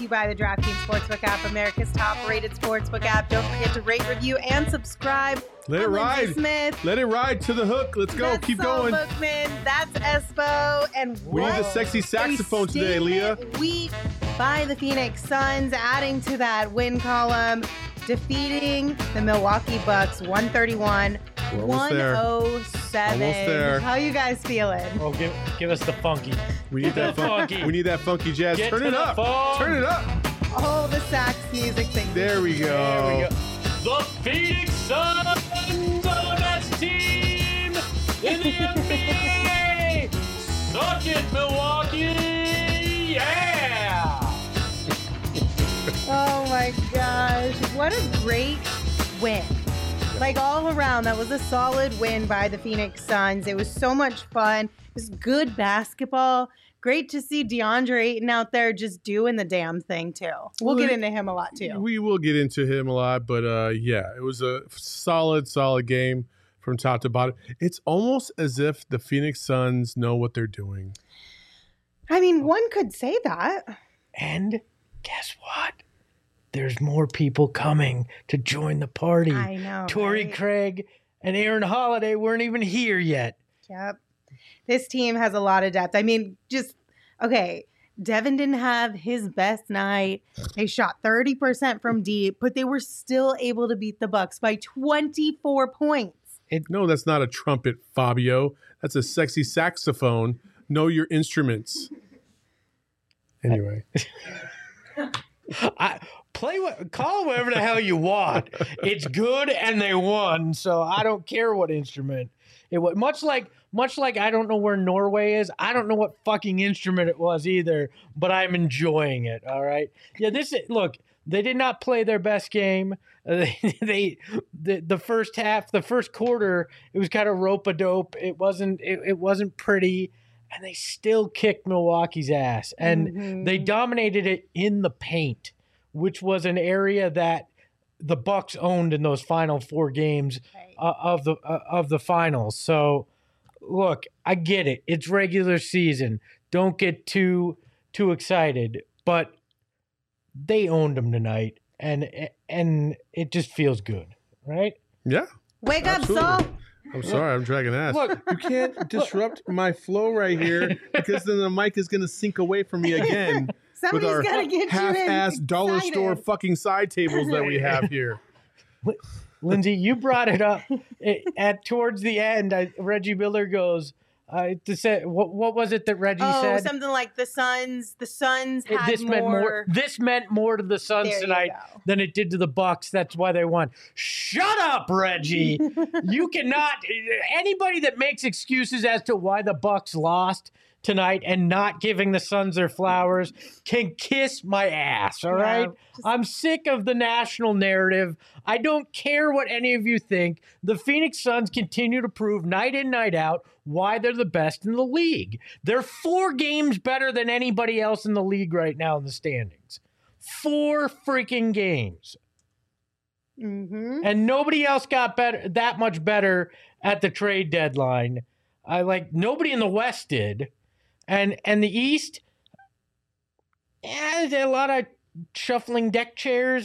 to you by the DraftKings Sportsbook app, America's top-rated sportsbook app. Don't forget to rate, review, and subscribe. Let it ride. Smith. Let it ride to the hook. Let's go. That's Keep Saul going. Bookman. That's Espo. And We need a sexy saxophone today, Leah. Week by the Phoenix Suns, adding to that win column, defeating the Milwaukee Bucks 131. We're almost there. 107. Almost there. How you guys feeling? Oh, give us the funky. We need that funky. We need that funky jazz. Get Turn to it the up. phone. Turn it up. Oh, the sax music thing. There we go. There we go. The Phoenix Suns are the best team in the NBA. Suck it, Milwaukee. Yeah. Oh my gosh. What a great win. Like all around, that was a solid win by the Phoenix Suns. It was so much fun. It was good basketball. Great to see DeAndre Ayton out there just doing the damn thing, too. We'll get into him a lot, too. We will get into him a lot, but yeah, it was a solid game from top to bottom. It's almost as if the Phoenix Suns know what they're doing. I mean, one could say that. And guess what? There's more people coming to join the party. I know. Torrey right? Craig and Aaron Holiday weren't even here yet. Yep. This team has a lot of depth. I mean, okay, Devin didn't have his best night. They shot 30% from deep, but they were still able to beat the Bucks by 24 points. No, that's not a trumpet, Fabio. That's a sexy saxophone. Know your instruments. Anyway. Call whatever the hell you want. It's good and they won, so I don't care what instrument it was. Much like I don't know where Norway is. I don't know what fucking instrument it was either, but I'm enjoying it. All right. Yeah. Look. They did not play their best game. The first half, the first quarter, it was kind of rope-a-dope. It wasn't pretty, and they still kicked Milwaukee's ass, and they dominated it in the paint, which was an area that the Bucks owned in those final 4 games of the finals. So, look, I get it. It's regular season. Don't get too excited, but they owned them tonight, and it just feels good, right? Yeah. Wake Absolutely. up, Saul. I'm sorry, I'm dragging ass. Look, you can't disrupt my flow right here because then the mic is going to sink away from me again. Somebody's with our got to get half-ass you dollar excited. store fucking side tables that we have here. Lindsay, you brought it up towards the end. Reggie Miller goes, what was it that Reggie said? Oh, something like the Suns had This meant more to the Suns There you tonight go. than it did to the Bucks. That's why they won. Shut up, Reggie. You cannot. Anybody that makes excuses as to why the Bucks lost tonight and not giving the Suns their flowers can kiss my ass. All right. I'm sick of the national narrative. I don't care what any of you think. The Phoenix Suns continue to prove night in, night out why they're the best in the league. They're 4 games better than anybody else in the league right now in the standings. 4 freaking games. And nobody else got that much better at the trade deadline. Nobody in the West did. And the East, there's a lot of shuffling deck chairs.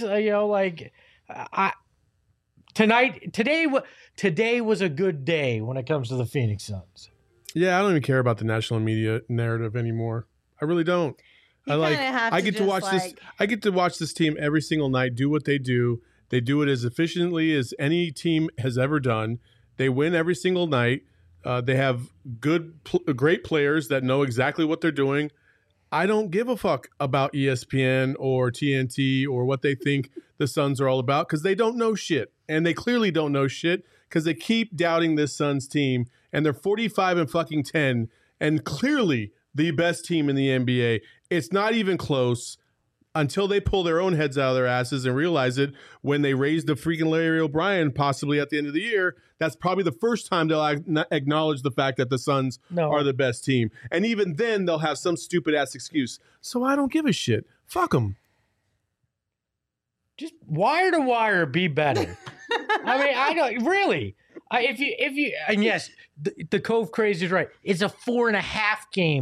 Today was a good day when it comes to the Phoenix Suns. Yeah, I don't even care about the national media narrative anymore. I really don't. I get to watch this. I get to watch this team every single night do what they do. They do it as efficiently as any team has ever done. They win every single night. They have great players that know exactly what they're doing. I don't give a fuck about ESPN or TNT or what they think the Suns are all about because they don't know shit. And they clearly don't know shit because they keep doubting this Suns team. And they're 45-10 and clearly the best team in the NBA. It's not even close until they pull their own heads out of their asses and realize it when they raise the freaking Larry O'Brien possibly at the end of the year. That's probably the first time they'll acknowledge the fact that the Suns are the best team. And even then, they'll have some stupid-ass excuse. So I don't give a shit. Fuck them. Just wire to wire, be better. I mean, I don't really. If you, and yes, the Cove Crazy is right. It's a 4.5 game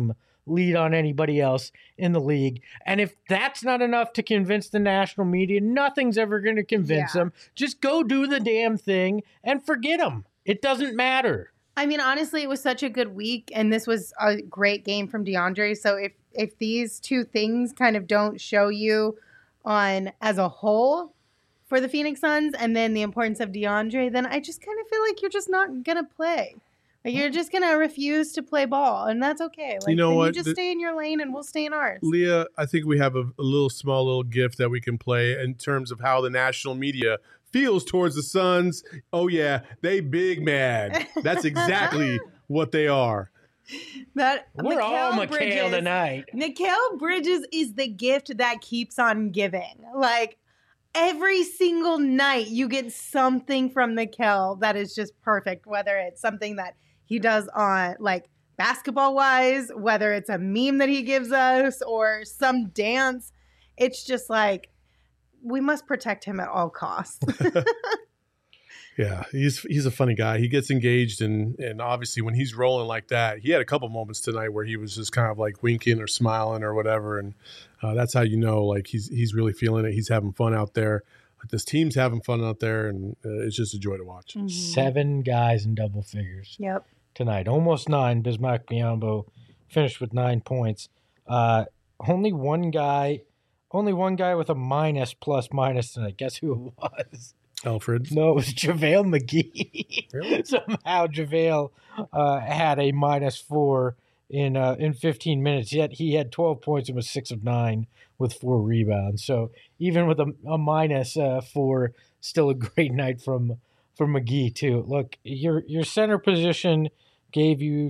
lead on anybody else in the league. And if that's not enough to convince the national media, nothing's ever going to convince them. Just go do the damn thing and forget them. It doesn't matter. I mean, honestly, it was such a good week, and this was a great game from DeAndre. So if these two things kind of don't show you on as a whole for the Phoenix Suns and then the importance of DeAndre, then I just kind of feel like you're just not going to play. Like, you're just going to refuse to play ball, and that's okay. Like, you know what? You just stay in your lane, and we'll stay in ours. Leah, I think we have a small gift that we can play in terms of how the national media feels towards the Suns. Oh, yeah, they big mad. That's exactly what they are. We're all Mikal tonight. Mikal Bridges is the gift that keeps on giving. Like, every single night you get something from Mikal that is just perfect, whether it's something that he does on, like, basketball-wise, whether it's a meme that he gives us or some dance. It's just like, we must protect him at all costs. Yeah, he's a funny guy. He gets engaged, and obviously when he's rolling like that, he had a couple moments tonight where he was just kind of like winking or smiling or whatever, and that's how you know, like, he's really feeling it. He's having fun out there. This team's having fun out there, and it's just a joy to watch. Mm-hmm. 7 guys in double figures. Yep. Tonight, almost 9. Bismack Biyombo finished with 9 points. Only one guy with a minus plus tonight. Guess who it was? Alfred. No, it was JaVale McGee. Really? Somehow JaVale had a -4 in 15 minutes. Yet he had 12 points and was 6 of 9 with 4 rebounds. So even with a -4, still a great night from McGee too. Look, your center position gave you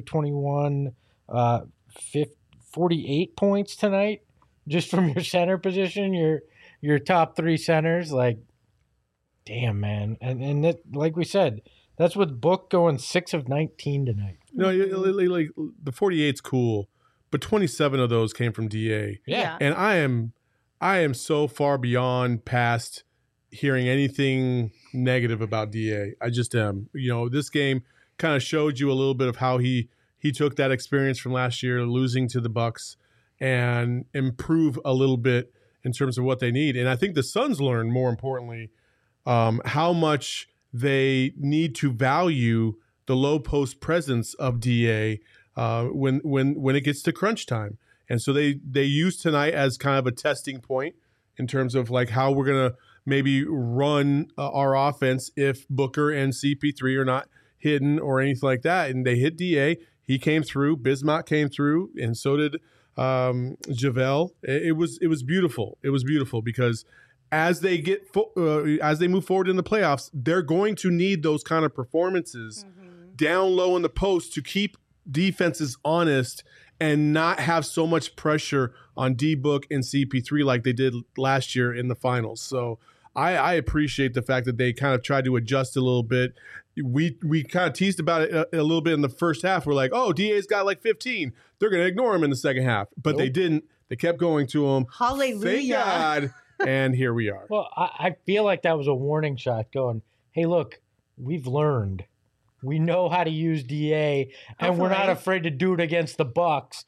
48 points tonight just from your center position. Your top 3 centers, like, damn, man. And that, like we said, that's with Book going 6 of 19 tonight. No, like, the 48's cool, but 27 of those came from DA. Yeah. And I am so far beyond past hearing anything negative about DA. I just am. You know, this game kind of showed you a little bit of how he took that experience from last year, losing to the Bucks, and improve a little bit in terms of what they need. And I think the Suns learned, more importantly, how much they need to value the low post presence of DA when it gets to crunch time. And so they used tonight as kind of a testing point in terms of, like, how we're going to maybe run our offense if Booker and CP3 are not hidden or anything like that. And they hit DA. He came through. Bismack came through, and so did JaVale. It was beautiful. It was beautiful because as they move forward in the playoffs, they're going to need those kind of performances down low in the post to keep defenses honest and not have so much pressure on D-Book and CP3 like they did last year in the finals. So I appreciate the fact that they kind of tried to adjust a little bit. We kind of teased about it a little bit in the first half. We're like, oh, DA's got like 15. They're going to ignore him in the second half. But They didn't. They kept going to him. Hallelujah. Thank God. And here we are. Well, I feel like that was a warning shot going, hey, look, we've learned. We know how to use DA, and we're not afraid to do it against the Bucks.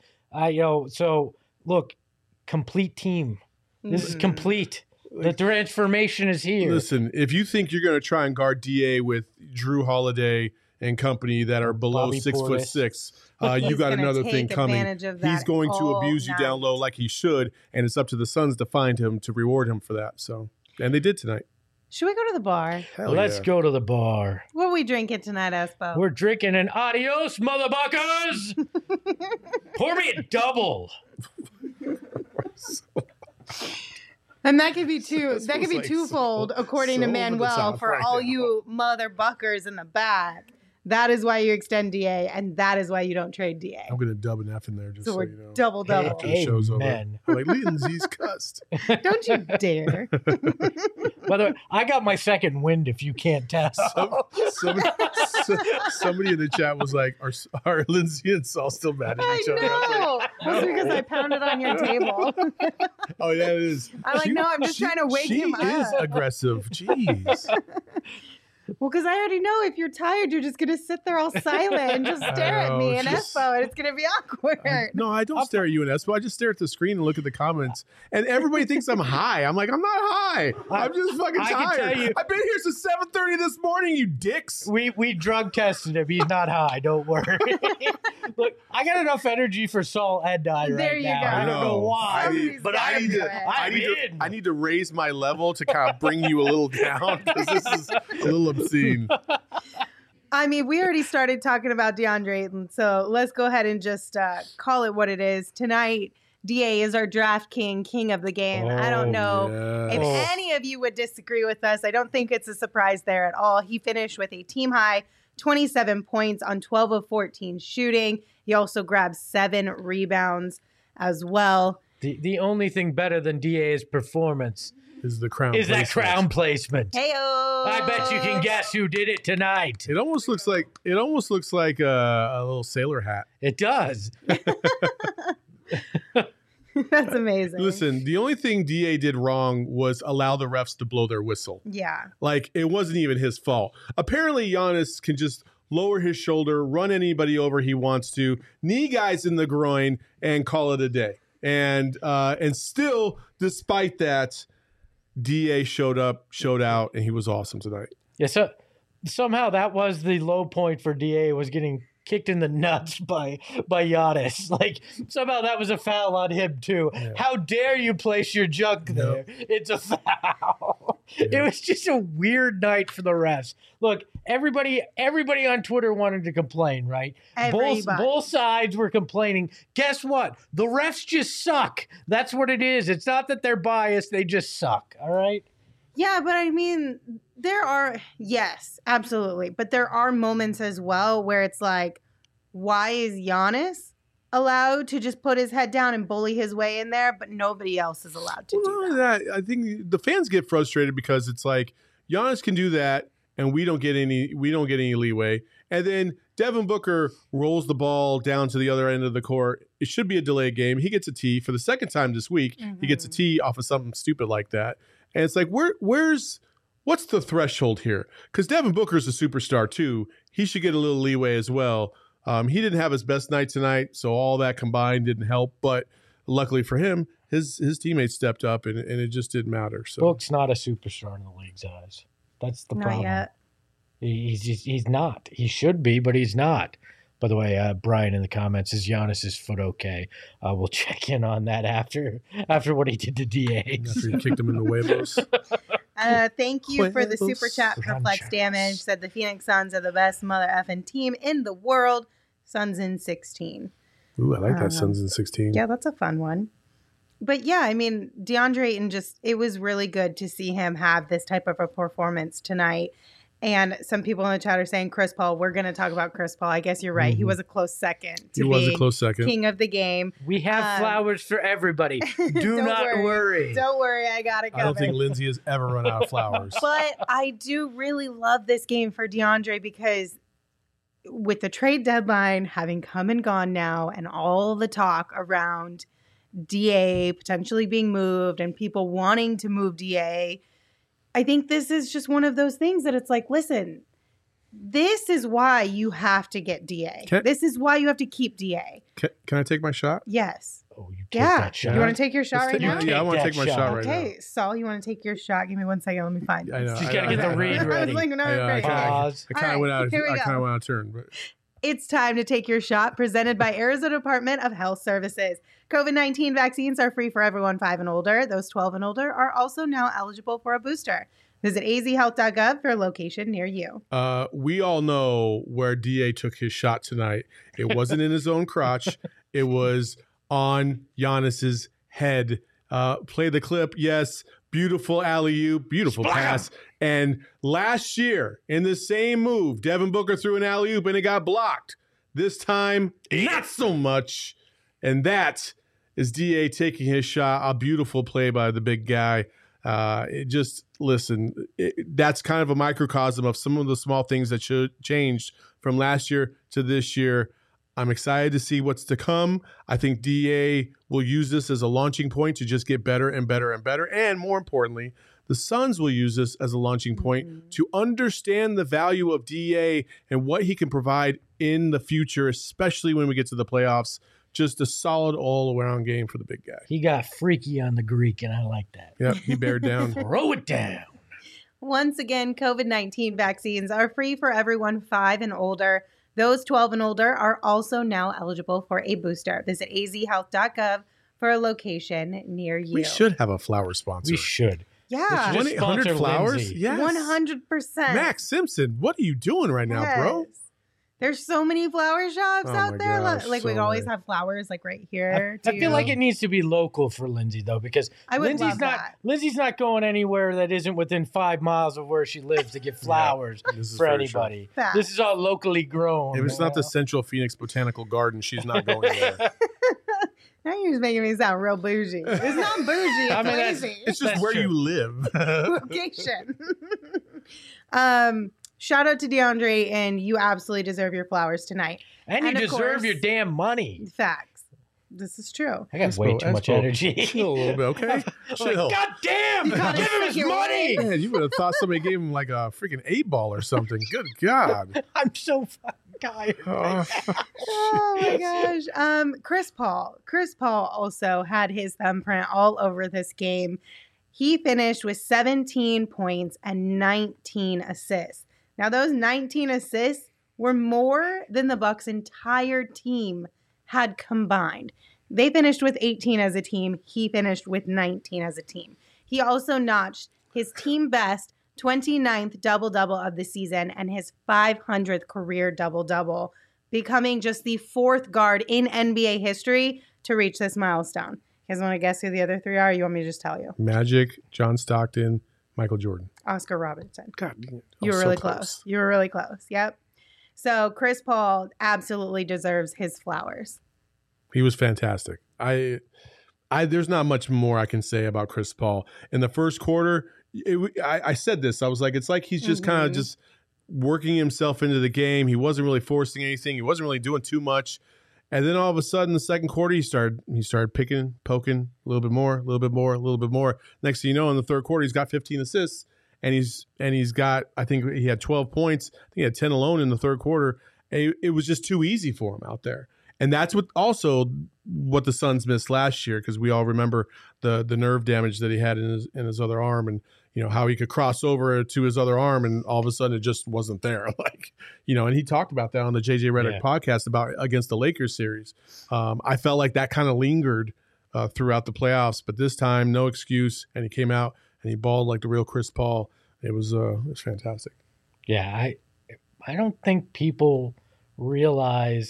So look, complete team. This is complete. The transformation is here. Listen, if you think you're going to try and guard DA with Drew Holiday and company that are below Bobby 6'6", you got another thing coming. He's going to abuse you down low like he should, and it's up to the Suns to find him to reward him for that. So, and they did tonight. Should we go to the bar? Let's go to the bar. What are we drinking tonight, Espo? We're drinking an adios, motherfuckers. Pour me a double. And that could be twofold, according to Manuel, for all you motherbuckers in the back. That is why you extend DA, and that is why you don't trade DA. I'm going to dub an F in there just so you know. Double. After the show's over. I'm like, Lindsay's cussed. Don't you dare. By the way, I got my second wind if you can't tell. Somebody in the chat was like, are Lindsay and Saul still mad at each other? I know. That's because I pounded on your table. Oh, yeah, it is. I'm like, no, I'm just trying to wake him up. She is aggressive. Jeez. Well, because I already know if you're tired, you're just going to sit there all silent and just stare at me and Espo, and it's going to be awkward. No, I don't stare at you and Espo. I just stare at the screen and look at the comments. And everybody thinks I'm high. I'm like, I'm not high. I'm just fucking tired. Can tell you, I've been here since 7:30 this morning, you dicks. We drug tested him. He's not high. Don't worry. Look, I got enough energy for Saul and I right now. There you go. I don't know why. I need to raise my level to kind of bring you a little down because this is a little obscene. I mean, we already started talking about DeAndre Ayton, so let's go ahead and just call it what it is. Tonight, DA is our draft king of the game. I don't know if any of you would disagree with us. I don't think it's a surprise there at all. He finished with a team-high 27 points on 12 of 14 shooting. He also grabbed 7 rebounds as well. The only thing better than DA's performance is the crown. Is that crown placement? Heyo! I bet you can guess who did it tonight. It almost looks like a little sailor hat. It does. That's amazing. Listen, the only thing DA did wrong was allow the refs to blow their whistle. Yeah. Like, it wasn't even his fault. Apparently, Giannis can just lower his shoulder, run anybody over he wants to, knee guys in the groin, and call it a day. And still, despite that, DA showed out, and he was awesome tonight. Yeah, so somehow that was the low point for DA, was getting kicked in the nuts by Giannis. Like, somehow that was a foul on him too. Yeah. How dare you place your junk there? Nope. It's a foul. Yeah. It was just a weird night for the refs. Look, everybody on Twitter wanted to complain, right? Both sides were complaining. Guess what? The refs just suck. That's what it is. It's not that they're biased. They just suck. All right? Yeah, but I mean, yes, absolutely. But there are moments as well where it's like, why is Giannis allowed to just put his head down and bully his way in there, but nobody else is allowed to do that? I think the fans get frustrated because it's like Giannis can do that and we don't get any leeway. And then Devin Booker rolls the ball down to the other end of the court. It should be a delayed game. He gets a tee for the second time this week. Mm-hmm. He gets a tee off of something stupid like that. And it's like, what's the threshold here? Because Devin Booker's a superstar too. He should get a little leeway as well. He didn't have his best night tonight, so all that combined didn't help. But luckily for him, his teammates stepped up, and it just didn't matter. So Book's not a superstar in the league's eyes. That's the problem. Not yet. He's not. He should be, but he's not. By the way, Brian in the comments, is Giannis's foot okay? We'll check in on that after what he did to DA. After he kicked him in the huevos. Thank you for the super chat. Perplex Damage said the Phoenix Suns are the best mother effing team in the world. Suns in 16. Ooh, I like that. Suns in 16. Yeah, that's a fun one. But yeah, I mean, DeAndre Ayton it was really good to see him have this type of a performance tonight. And some people in the chat are saying Chris Paul. We're going to talk about Chris Paul. I guess you're right. Mm-hmm. He was a close second to being king of the game. We have flowers for everybody. Do not worry. Don't worry. I got it covered. I don't think Lindsay has ever run out of flowers. But I do really love this game for DeAndre because with the trade deadline having come and gone now and all the talk around DA potentially being moved and people wanting to move DA, I think this is just one of those things that it's like, listen, this is why you have to get DA. This is why you have to keep DA. Can I take my shot? Yes. Oh, you take that shot? You want to take your shot right now? Yeah, I want to take my shot right now. Okay, Saul, you want to take your shot? Give me 1 second. Let me find it. I know. She's got to get the read ready. I was like, no, ready. Pause. I kind of went out of turn. But it's time to take your shot, presented by Arizona Department of Health Services. COVID-19 vaccines are free for everyone 5 and older. Those 12 and older are also now eligible for a booster. Visit azhealth.gov for a location near you. We all know where DA took his shot tonight. It wasn't in his own crotch. It was on Giannis's head. Play the clip. Yes. Beautiful alley-oop. Beautiful pass. And last year, in the same move, Devin Booker threw an alley-oop and it got blocked. This time, not so much. And that is DA taking his shot. A beautiful play by the big guy. That's kind of a microcosm of some of the small things that should changed from last year to this year. I'm excited to see what's to come. I think DA will use this as a launching point to just get better and better and better. And more importantly, The Suns will use this as a launching point to understand the value of DA and what he can provide in the future, especially when we get to the playoffs. Just a solid all-around game for the big guy. He got freaky on the Greek, and I like that. Yep, he bared down. Throw it down. Once again, COVID-19 vaccines are free for everyone 5 and older. Those 12 and older are also now eligible for a booster. Visit azhealth.gov for a location near you. We should have a flower sponsor. We should. Yeah. 1-800 flowers? Yes. 100%. Max Simpson, what are you doing right now, bro? There's so many flower shops out there. Gosh, like, we always have flowers like right here. I feel like it needs to be local for Lindsay, though, because Lindsay's not going anywhere that isn't within 5 miles of where she lives to get flowers for anybody. This is all locally grown. If it's not the Central Phoenix Botanical Garden, she's not going there. Now you're just making me sound real bougie. It's not bougie. It's lazy. It's just where you live. Location. Shout out to DeAndre, and you absolutely deserve your flowers tonight. And you deserve your damn money. Facts. This is true. I got way too much energy. Chill a little bit, okay? Chill. God damn! Give him his money! Man, you would have thought somebody gave him like a freaking 8-ball or something. Good God. I'm so fucking tired. Oh my gosh. Chris Paul. Chris Paul also had his thumbprint all over this game. He finished with 17 points and 19 assists. Now, those 19 assists were more than the Bucks' entire team had combined. They finished with 18 as a team. He finished with 19 as a team. He also notched his team best 29th double-double of the season and his 500th career double-double, becoming just the 4th guard in NBA history to reach this milestone. You guys want to guess who the other 3 are? Or you want me to just tell you? Magic, John Stockton, Michael Jordan. Oscar Robertson. God, you were really close. You were really close. Yep. So Chris Paul absolutely deserves his flowers. He was fantastic. There's not much more I can say about Chris Paul. In the first quarter, I said this. I was like, it's like he's just kind of just working himself into the game. He wasn't really forcing anything. He wasn't really doing too much. And then all of a sudden, the second quarter, he started picking, poking a little bit more, a little bit more, a little bit more. Next thing you know, in the third quarter, he's got 15 assists, and he's got, I think he had 12 points. I think he had 10 alone in the third quarter. It was just too easy for him out there. And that's what the Suns missed last year, because we all remember the nerve damage that he had in his other arm, and how he could cross over to his other arm, and all of a sudden it just wasn't there. And he talked about that on the JJ Redick podcast about against the Lakers series. I felt like that kind of lingered throughout the playoffs, but this time no excuse, and he came out and he balled like the real Chris Paul. It was fantastic. Yeah, I don't think people realize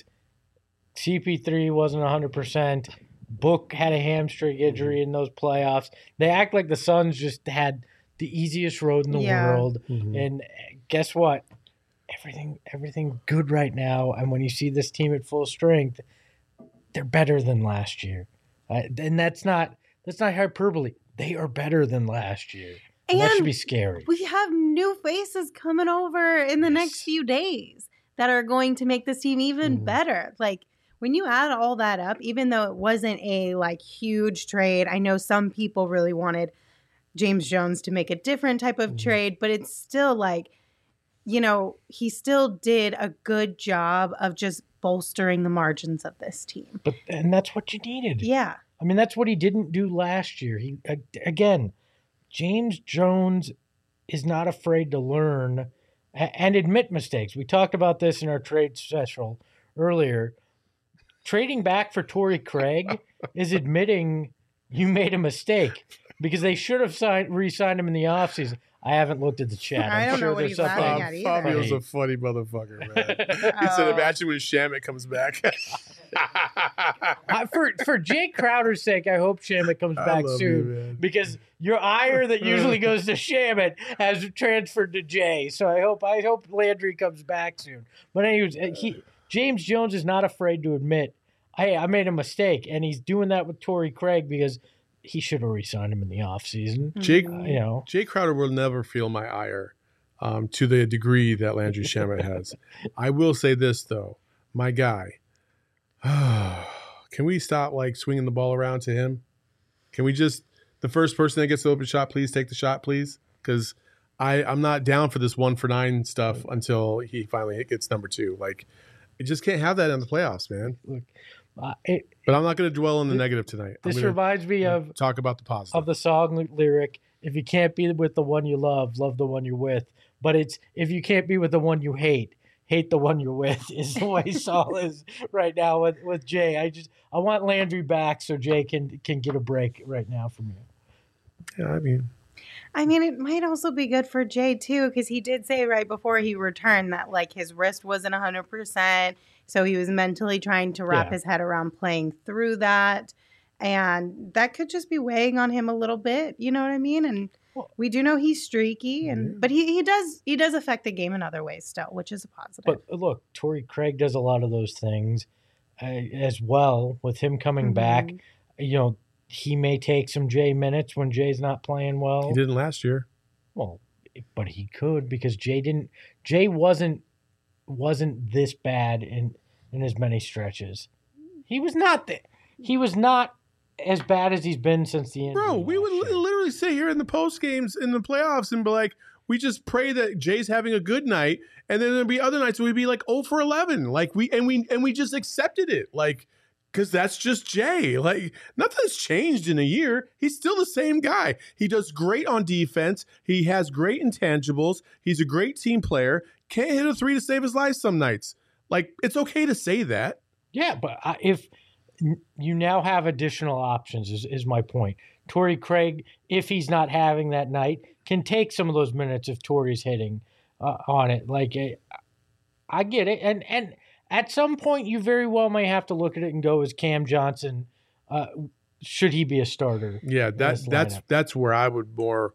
CP3 wasn't 100%. Book had a hamstring injury in those playoffs. They act like the Suns just had the easiest road in the world. And guess what? Everything good right now. And when you see this team at full strength, they're better than last year. And that's not hyperbole. They are better than last year. And that should be scary. We have new faces coming over in the next few days that are going to make this team even better. Like, when you add all that up, even though it wasn't a huge trade, I know some people really wanted James Jones to make a different type of trade, but it's still he still did a good job of just bolstering the margins of this team. And that's what you needed. Yeah. I mean, that's what he didn't do last year. James Jones is not afraid to learn and admit mistakes. We talked about this in our trade special earlier. Trading back for Torrey Craig is admitting you made a mistake, because they should have re-signed him in the offseason. I haven't looked at the chat. I don't know what he's laughing at either. Fabio's a funny motherfucker, man. He said, imagine when Shamet comes back. For Jay Crowder's sake, I hope Shamet comes back soon, because your ire that usually goes to Shamet has transferred to Jay. So I hope Landry comes back soon. But anyways, James Jones is not afraid to admit, hey, I made a mistake, and he's doing that with Torrey Craig because he should have re-signed him in the offseason. Jay Crowder will never feel my ire to the degree that Landry Shamet has. I will say this, though. My guy, can we stop swinging the ball around to him? Can we just The first person that gets the open shot, please take the shot, please. Because I'm not down for this 1-for-9 stuff until he finally gets number 2. Like, you just can't have that in the playoffs, man. Look, but I'm not going to dwell on the negative tonight. This reminds me of talk about the positive of the song lyric. If you can't be with the one you love, love the one you're with. But it's if you can't be with the one you hate the one you're with is the way Saul is right now with Jay. I want Landry back so Jay can get a break right now from you. Yeah, I mean, it might also be good for Jay too, because he did say right before he returned that like his wrist wasn't 100%, so he was mentally trying to wrap his head around playing through that, and that could just be weighing on him a little bit. You know what I mean? And we do know he's streaky, but he does affect the game in other ways still, which is a positive. But look, Torrey Craig does a lot of those things as well. With him coming back, you know. He may take some Jay minutes when Jay's not playing well. He didn't last year. Well, but he could because Jay wasn't this bad in as many stretches. He was not as bad as he's been since the end. Bro, we would literally sit here in the post games in the playoffs and be like, we just pray that Jay's having a good night, and then there'd be other nights where we'd be like 0 for 11. Like we just accepted it. Like, because that's just Jay. Like, nothing's changed in a year. He's still the same guy. He does great on defense. He has great intangibles. He's a great team player. Can't hit a 3 to save his life some nights. Like, it's okay to say that. Yeah, but if you now have additional options is my point. Torrey Craig, if he's not having that night, can take some of those minutes if Torrey's hitting on it. Like, I get it. And at some point, you very well may have to look at it and go, is Cam Johnson, should he be a starter? Yeah, that's where I would more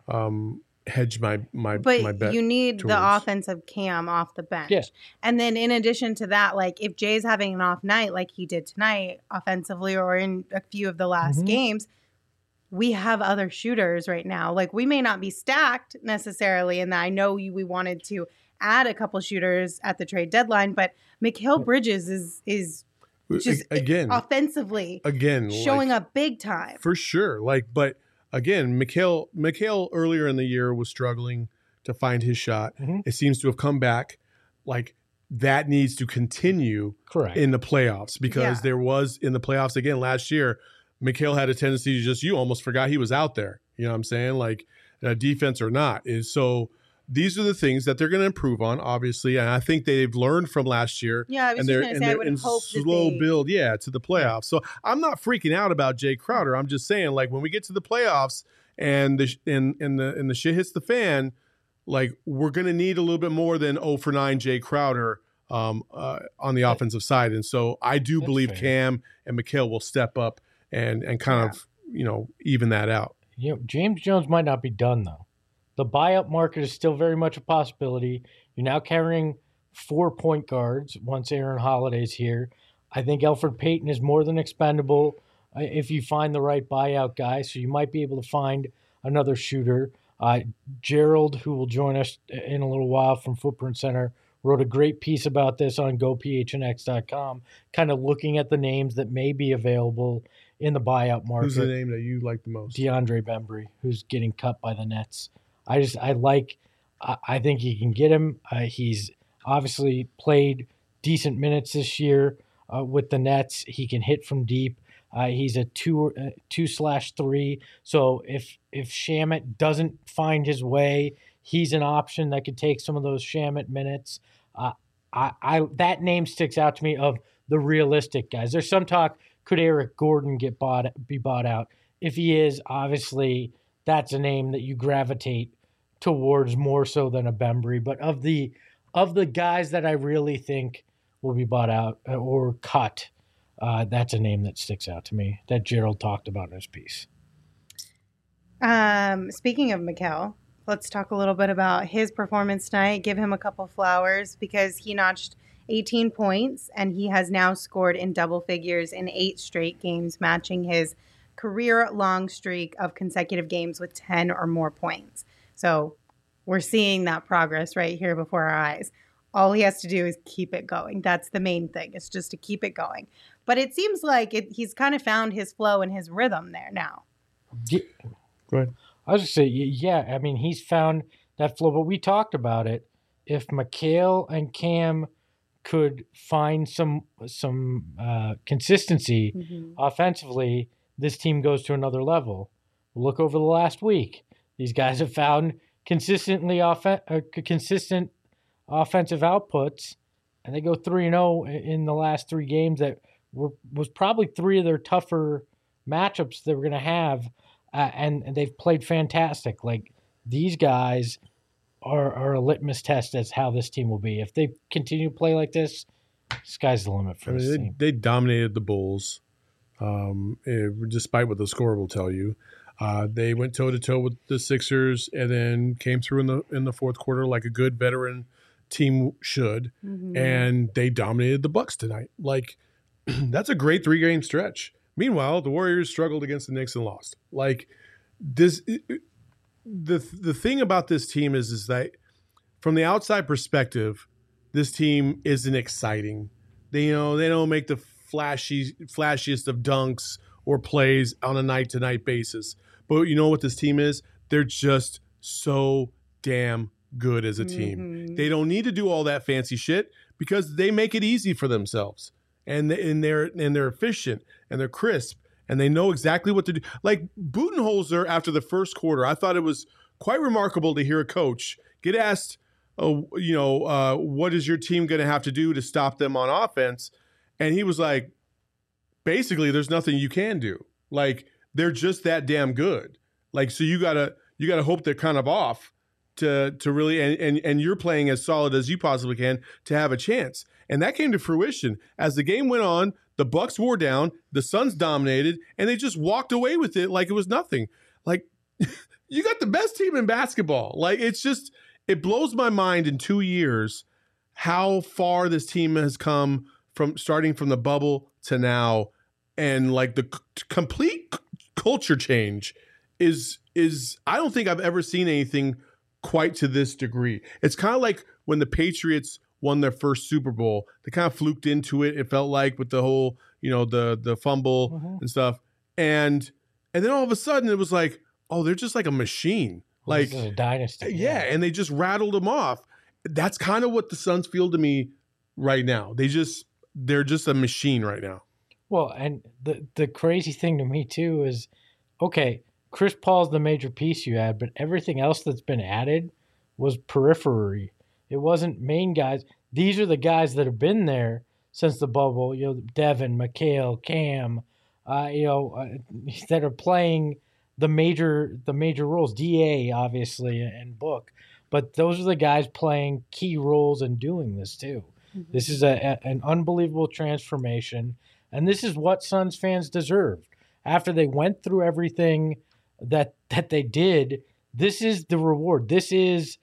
hedge my bet. But you need the offensive Cam off the bench. Yes. And then in addition to that, like if Jay's having an off night like he did tonight offensively or in a few of the last games, we have other shooters right now. Like we may not be stacked necessarily, and I know we wanted to add a couple shooters at the trade deadline, but Mikal Bridges is just offensively showing up big time. For sure. Like, but again, Mikal earlier in the year was struggling to find his shot. It seems to have come back. Like that needs to continue in the playoffs because there was in the playoffs again last year, Mikal had a tendency to just, you almost forgot he was out there. You know what I'm saying? Like defense or not is so. These are the things that they're going to improve on, obviously, and I think they've learned from last year. Yeah, I was just going to say, I would hope slow build, to the playoffs. So I'm not freaking out about Jay Crowder. I'm just saying, like when we get to the playoffs and the shit hits the fan, like we're going to need a little bit more than 0 for 9 Jay Crowder on the offensive side, and so I do believe Cam and Mikal will step up and kind of even that out. James Jones might not be done though. The buyout market is still very much a possibility. You're now carrying 4 point guards once Aaron Holiday's here. I think Elfrid Payton is more than expendable if you find the right buyout guy. So you might be able to find another shooter. Gerald, who will join us in a little while from Footprint Center, wrote a great piece about this on GoPHNX.com, kind of looking at the names that may be available in the buyout market. Who's the name that you like the most? DeAndre Bembry, who's getting cut by the Nets. I think you can get him. He's obviously played decent minutes this year with the Nets. He can hit from deep. He's a 2/3. So if Shamet doesn't find his way, he's an option that could take some of those Shamet minutes. That name sticks out to me of the realistic guys. There's some talk, could Eric Gordon be bought out? If he is, obviously that's a name that you gravitate towards more so than a Bembry. But of the guys that I really think will be bought out or cut, that's a name that sticks out to me that Gerald talked about in his piece. Speaking of Mikal, let's talk a little bit about his performance tonight. Give him a couple flowers because he notched 18 points and he has now scored in double figures in 8 straight games, matching his career-long streak of consecutive games with 10 or more points. So we're seeing that progress right here before our eyes. All he has to do is keep it going. That's the main thing. It's just to keep it going. But it seems like he's kind of found his flow and his rhythm there now. Go ahead. I was just say, yeah. I mean, he's found that flow, but we talked about it. If Mikal and Cam could find some consistency offensively, this team goes to another level. Look over the last week; these guys have found consistent offensive outputs, and they go 3-0 in the last 3 games. That was probably 3 of their tougher matchups they were going to have, and they've played fantastic. Like, these guys are a litmus test as how this team will be. If they continue to play like this, sky's the limit for this team. They dominated the Bulls, despite what the score will tell you. They went toe-to-toe with the Sixers and then came through in the fourth quarter like a good veteran team should, and they dominated the Bucks tonight. Like, that's a great 3-game stretch. Meanwhile, the Warriors struggled against the Knicks and lost. Like, this, the thing about this team is that from the outside perspective, this team isn't exciting. They don't make the flashiest of dunks or plays on a night-to-night basis. But you know what this team is? They're just so damn good as a team. They don't need to do all that fancy shit because they make it easy for themselves. And they're efficient and they're crisp and they know exactly what to do. Like Budenholzer, after the first quarter, I thought it was quite remarkable to hear a coach get asked, what is your team going to have to do to stop them on offense? And he was like, basically, there's nothing you can do. Like, they're just that damn good. Like, so you gotta hope they're kind of off to really and you're playing as solid as you possibly can to have a chance. And that came to fruition. As the game went on, the Bucks wore down, the Suns dominated, and they just walked away with it like it was nothing. Like, you got the best team in basketball. Like, it blows my mind in 2 years how far this team has come from starting from the bubble to now. And like the complete culture change is I don't think I've ever seen anything quite to this degree. It's kind of like when the Patriots won their first Super Bowl. They kind of fluked into it. It felt like with the whole, the fumble and stuff. And then all of a sudden it was like, oh, they're just like a machine. Like, this is a dynasty. Yeah, and they just rattled them off. That's kind of what the Suns feel to me right now. They're just a machine right now. Well, and the crazy thing to me too is, okay, Chris Paul's the major piece you had, but everything else that's been added was periphery. It wasn't main guys. These are the guys that have been there since the bubble. Devin, Mikal, Cam, that are playing the major roles. DA obviously and Book, but those are the guys playing key roles and doing this too. This is an unbelievable transformation. And this is what Suns fans deserved. After they went through everything that they did, this is the reward. This is,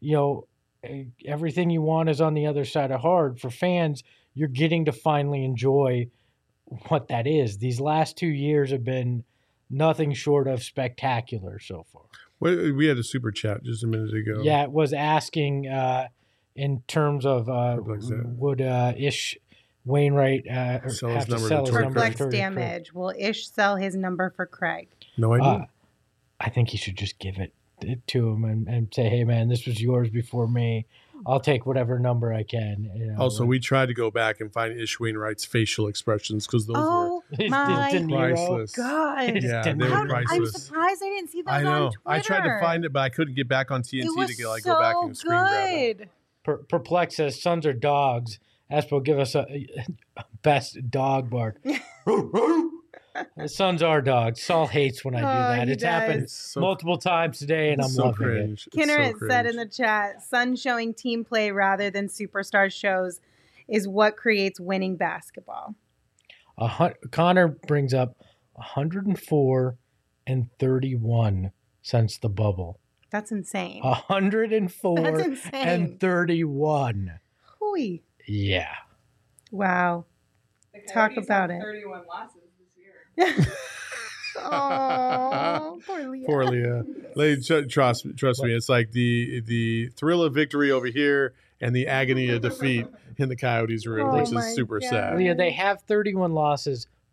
everything you want is on the other side of hard. For fans, you're getting to finally enjoy what that is. These last 2 years have been nothing short of spectacular so far. We had a super chat just a minute ago. Yeah, it was asking in terms of would Ish Wainwright have to sell his number for flex damage? Will Ish sell his number for Craig? No idea. I think he should just give it to him and say, hey, man, this was yours before me. I'll take whatever number I can. Also, we tried to go back and find Ish Wainwright's facial expressions because those were priceless. God. Yeah, they were priceless. I'm surprised I didn't see those on Twitter. I tried to find it, but I couldn't get back on TNT to go back and screen grab it. Perplex says, Suns are dogs. Espo, give us a best dog bark. The Suns are dogs. Saul hates when I do that. It's happened multiple times today, and I'm loving it. Kinneret said in the chat, Suns showing team play rather than superstar shows is what creates winning basketball. Connor brings up 104 and 31 since the bubble. That's insane. 104 That's insane. And 31. Hooey. Yeah. Wow. Talk about it. 31 losses this year. Oh, poor Leah. Poor Leah. Trust me, it's like the thrill of victory over here and the agony of defeat in the Coyotes room, which is super sad. Leah, they have 31 losses,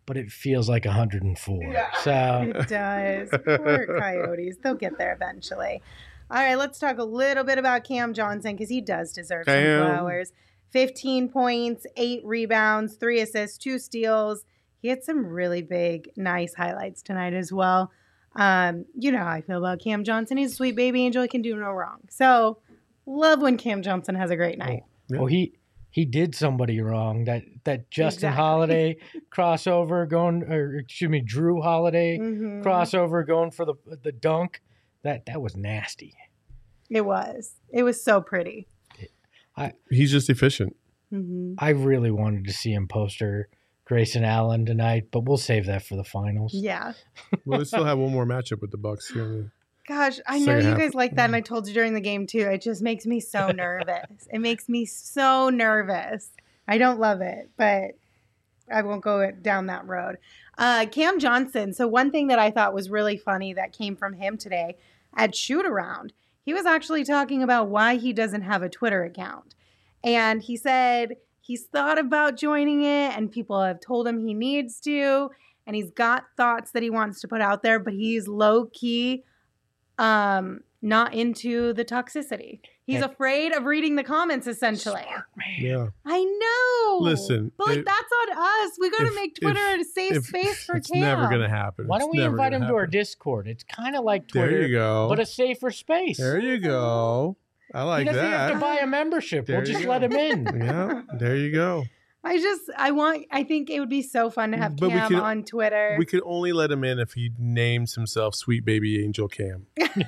but it feels like 104. Yeah, so it does. Poor Coyotes. They'll get there eventually. All right, let's talk a little bit about Cam Johnson because he does deserve some flowers. 15 points, 8 rebounds, 3 assists, 2 steals. He had some really big, nice highlights tonight as well. You know how I feel about Cam Johnson. He's a sweet baby angel. He can do no wrong. So, love when Cam Johnson has a great night. Oh, he did somebody wrong. That Justin Holiday crossover Drew Holiday crossover going for the dunk. That was nasty. It was. It was so pretty. He's just efficient. I really wanted to see him poster Grayson Allen tonight, but we'll save that for the finals. Yeah. Well, they still have one more matchup with the Bucks here. Gosh, I know you guys like that, and I told you during the game, too. It just makes me so nervous. It makes me so nervous. I don't love it, but I won't go down that road. Cam Johnson. So one thing that I thought was really funny that came from him today at Shoot-Around, he was actually talking about why he doesn't have a Twitter account. And he said he's thought about joining it, and people have told him he needs to, and he's got thoughts that he wants to put out there, but he's low-key not into the toxicity. He's afraid of reading the comments, essentially. Smart man. Yeah. I know. Listen. But that's on us. We got to make Twitter a safe space for it's Cam. It's never going to happen. Why don't we invite him to our Discord? It's kind of like Twitter, there you go. but a safer space. There you go. I like that. He doesn't have to buy a membership. We'll just let him in. Yeah, there you go. I think it would be so fun to have Cam on Twitter. We could only let him in if he names himself Sweet Baby Angel Cam.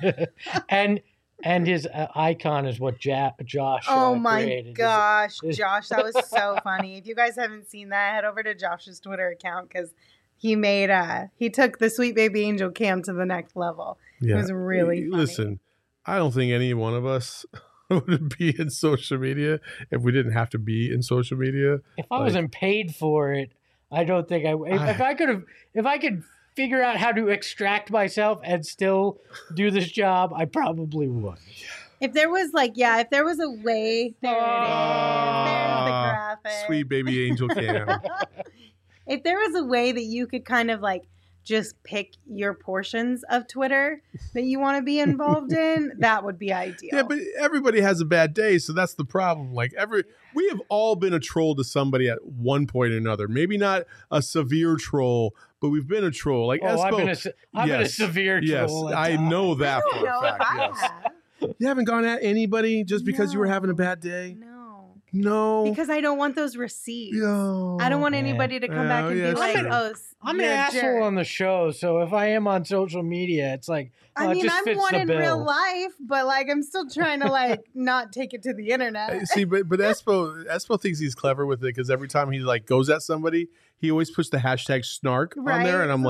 and his icon is what Josh oh my created. gosh, Josh, that was so funny. If you guys haven't seen that, head over to Josh's Twitter account because he took the Sweet Baby Angel Cam to the next level. Yeah. It was really funny. Listen, I don't think any one of us would be in social media if we didn't have to be in social media. If I wasn't paid for it, I don't think I would. If I could figure out how to extract myself and still do this job, I probably would. If there was a way, there it is. There's the graphic. Sweet Baby Angel Cam. If there was a way that you could kind of just pick your portions of Twitter that you want to be involved in, that would be ideal. Yeah, but everybody has a bad day, so that's the problem. We have all been a troll to somebody at one point or another. Maybe not a severe troll, but we've been a troll. Like Espo, I've been a severe troll. Yes, I know that for a fact. Yes. You haven't gone at anybody just because you were having a bad day? No. Because I don't want those receipts. No. I don't want anybody to come back and be like, I'm an asshole on the show, so if I am on social media, it's like, I'm fits one the in bill. real life, but I'm still trying to not take it to the internet. See, but Espo thinks he's clever with it because every time he goes at somebody, he always puts the hashtag snark on there, and I'm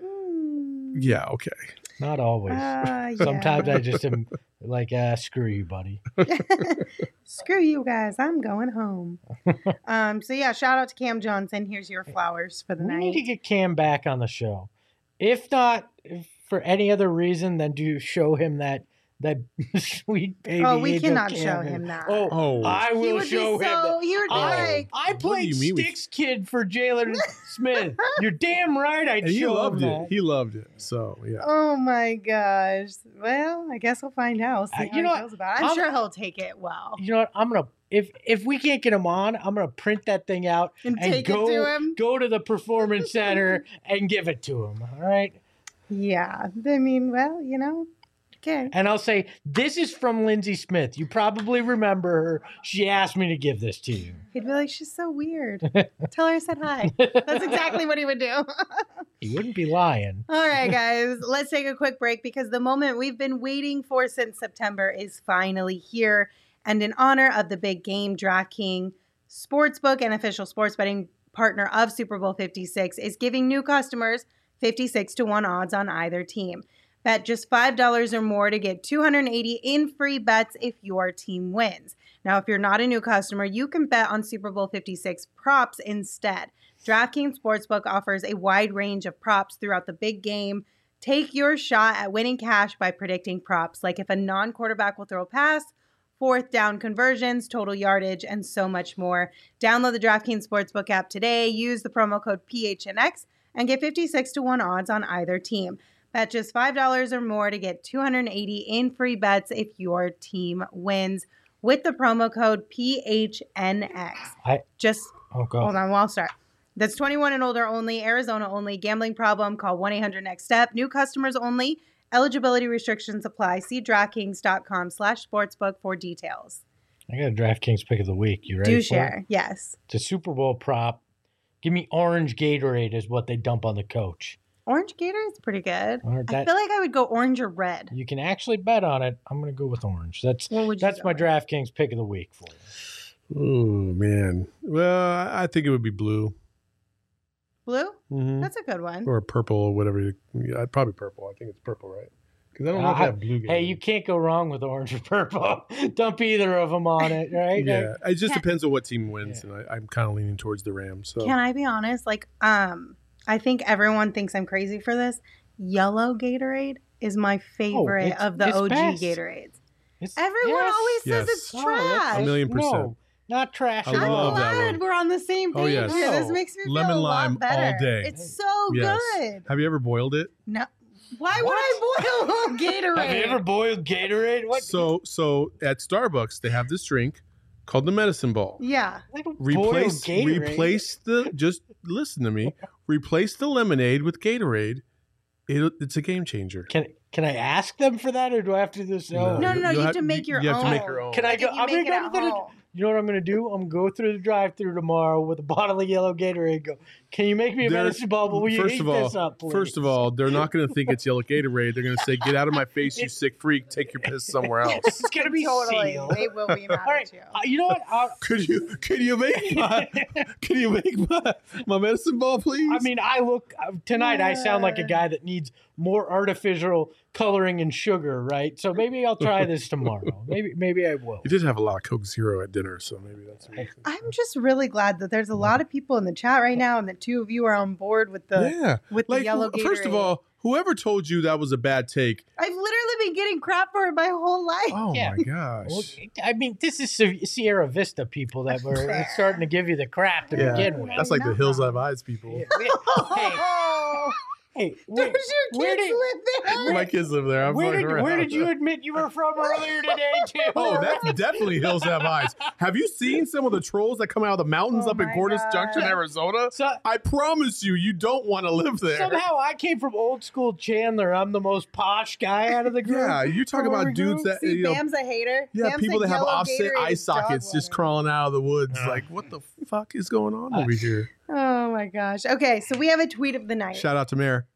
yeah, okay. Not always. Sometimes I just am screw you, buddy. Screw you guys. I'm going home. So yeah, shout out to Cam Johnson. Here's your flowers for the night. We need to get Cam back on the show. If not for any other reason than to show him that sweet baby. Oh, we cannot show him that. Oh, I will show him that. He would be I played Sticks Kid for Jalen Smith. You're damn right I'd show him that. He loved it. So, yeah. Oh, my gosh. Well, I guess we'll find out. We'll see how he feels about it. I'm sure he'll take it well. You know what? I'm going to, if we can't get him on, I'm going to print that thing out and take it to him. Go to the Performance Center and give it to him. All right? Yeah. I mean, well, okay. And I'll say, this is from Lindsay Smith. You probably remember her. She asked me to give this to you. He'd be like, she's so weird. Tell her I said hi. That's exactly what he would do. He wouldn't be lying. All right, guys. Let's take a quick break because the moment we've been waiting for since September is finally here. And in honor of the big game, DraftKings Sportsbook, an official sports betting partner of Super Bowl 56, is giving new customers 56-1 odds on either team. Bet just $5 or more to get $280 in free bets if your team wins. Now, if you're not a new customer, you can bet on Super Bowl 56 props instead. DraftKings Sportsbook offers a wide range of props throughout the big game. Take your shot at winning cash by predicting props, like if a non-quarterback will throw a pass, fourth down conversions, total yardage, and so much more. Download the DraftKings Sportsbook app today. Use the promo code PHNX and get 56-1 odds on either team. Bet just $5 or more to get $280 in free bets if your team wins with the promo code PHNX. Hold on, I'll start. That's 21 and older only, Arizona only. Gambling problem, call 1-800-NEXT-STEP. New customers only. Eligibility restrictions apply. See DraftKings.com/sportsbook for details. I got a DraftKings pick of the week. You ready? Do share, yes. It's a Super Bowl prop. Give me orange Gatorade is what they dump on the coach. Orange Gatorade's pretty good. I feel like I would go orange or red. You can actually bet on it. I'm going to go with orange. That's my DraftKings pick of the week for you. Oh, man. Well, I think it would be blue. Blue? Mm-hmm. That's a good one. Or purple or whatever. Probably purple. I think it's purple, right? Because I don't know if they have blue. Hey, you can't go wrong with orange or purple. Dump either of them on it, right? Yeah, it just depends on what team wins, and I'm kind of leaning towards the Rams. So. Can I be honest? I think everyone thinks I'm crazy for this. Yellow Gatorade is my favorite of the OG best. Gatorades. Everyone always says it's trash. 1,000,000%. No, not trash. I'm glad we're on the same page here. This makes me feel lemon lime better. all day. It's so good. Have you ever boiled it? No. Why would I boil Gatorade? Have you ever boiled Gatorade? What? So at Starbucks they have this drink called the medicine ball. Yeah. Replace just listen to me. Replace the lemonade with Gatorade. It's a game changer. Can I ask them for that, or do I have to do this? No. You have to make your own. You have to make your own. Can I go? I'm going to go. You know what I'm going to do? I'm going to go through the drive-thru tomorrow with a bottle of yellow Gatorade. Go, can you make me a medicine ball? But will you heat this up, please? First of all, they're not going to think it's yellow Gatorade. They're going to say, "Get out of my face, you sick freak! Take your piss somewhere else." It's going to be sealed. They will be mad at you. You know what? Could you make my medicine ball, please? I mean, tonight. I sound like a guy that needs more artificial coloring and sugar, right? So maybe I'll try this tomorrow. Maybe I will. You did have a lot of Coke Zero at dinner, so maybe that's. I'm just really glad that there's a lot of people in the chat right now, and the two of you are on board with the the yellow Gatorade. First of all, whoever told you that was a bad take? I've literally been getting crap for it my whole life. Oh my gosh! Well, I mean, this is Sierra Vista people that were starting to give you the crap to begin with. That's like the Hills Have Eyes people. Hey, where kids live there? My kids live there. Where did you admit you were from earlier today, too? Oh, that's definitely Hills Have Eyes. Have you seen some of the trolls that come out of the mountains up in Cordes Junction, Arizona? I promise you don't want to live there. Somehow I came from old school Chandler. I'm the most posh guy out of the group. Yeah, you talk about dudes that Bam's a hater. Yeah, Bam's people that have offset Gatorade eye sockets just crawling out of the woods. Like, what the fuck is going on over here? Oh my gosh. Okay, so we have a tweet of the night. Shout out to Mayor.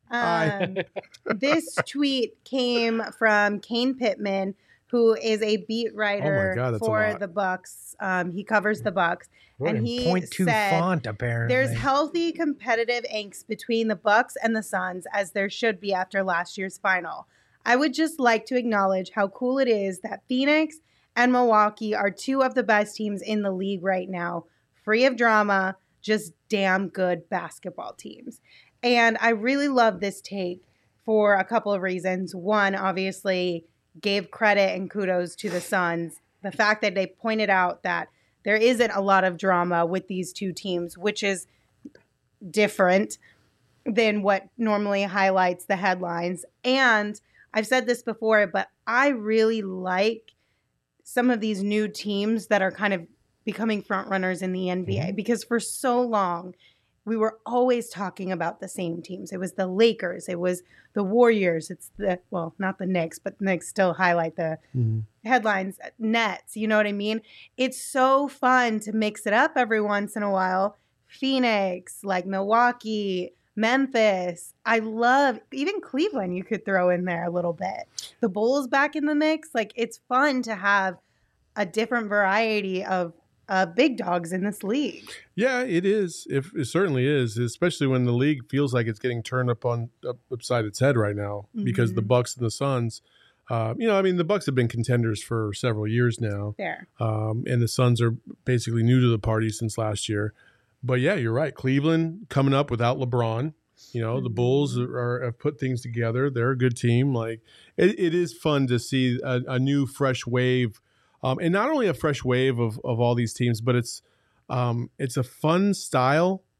This tweet came from Kane Pittman, who is a beat writer for the Bucks. He covers the Bucks, and he said, font, apparently. "There's healthy competitive angst between the Bucks and the Suns, as there should be after last year's final. I would just like to acknowledge how cool it is that Phoenix and Milwaukee are two of the best teams in the league right now, free of drama, just damn good basketball teams." And I really love this take for a couple of reasons. One, obviously, gave credit and kudos to the Suns. The fact that they pointed out that there isn't a lot of drama with these two teams, which is different than what normally highlights the headlines. And I've said this before, but I really like some of these new teams that are kind of becoming front runners in the NBA, because for so long, we were always talking about the same teams. It was the Lakers. It was the Warriors. It's not the Knicks, but the Knicks still highlight the headlines. Nets, you know what I mean? It's so fun to mix it up every once in a while. Phoenix, like Milwaukee, Memphis. I love, even Cleveland you could throw in there a little bit. The Bulls back in the mix. Like, it's fun to have a different variety of big dogs in this league. Yeah, it is. It certainly is, especially when the league feels like it's getting turned upside its head right now because the Bucks and the Suns. The Bucks have been contenders for several years now. Fair. And the Suns are basically new to the party since last year. But yeah, you're right. Cleveland coming up without LeBron. The Bulls have put things together. They're a good team. Like it is fun to see a new, fresh wave. And not only a fresh wave of all these teams, but it's a fun style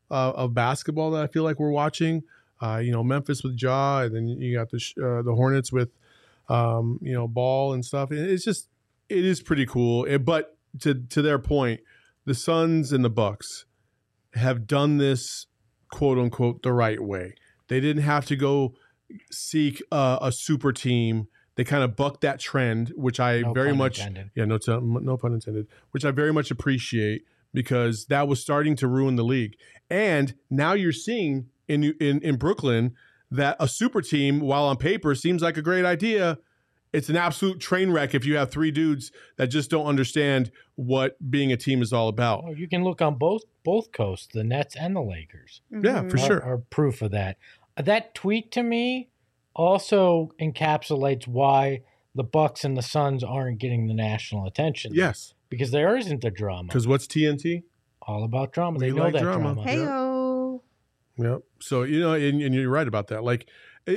of basketball that I feel like we're watching. Memphis with Ja, and then you got the Hornets with Ball and stuff. It is pretty cool. But to their point, the Suns and the Bucks have done this, quote unquote, the right way. They didn't have to go seek a super team. They kind of bucked that trend, which I no very much intended. No pun intended, which I very much appreciate, because that was starting to ruin the league. And now you're seeing in Brooklyn that a super team, while on paper seems like a great idea, it's an absolute train wreck if you have three dudes that just don't understand what being a team is all about. Oh, you can look on both coasts, the Nets and the Lakers. Mm-hmm. Yeah, for sure. Are proof of that. That tweet to me also encapsulates why the Bucks and the Suns aren't getting the national attention. Yes. Because there isn't the drama. Because what's TNT? All about drama. They know like that drama. Hey-o. Yep. So, and you're right about that. Like,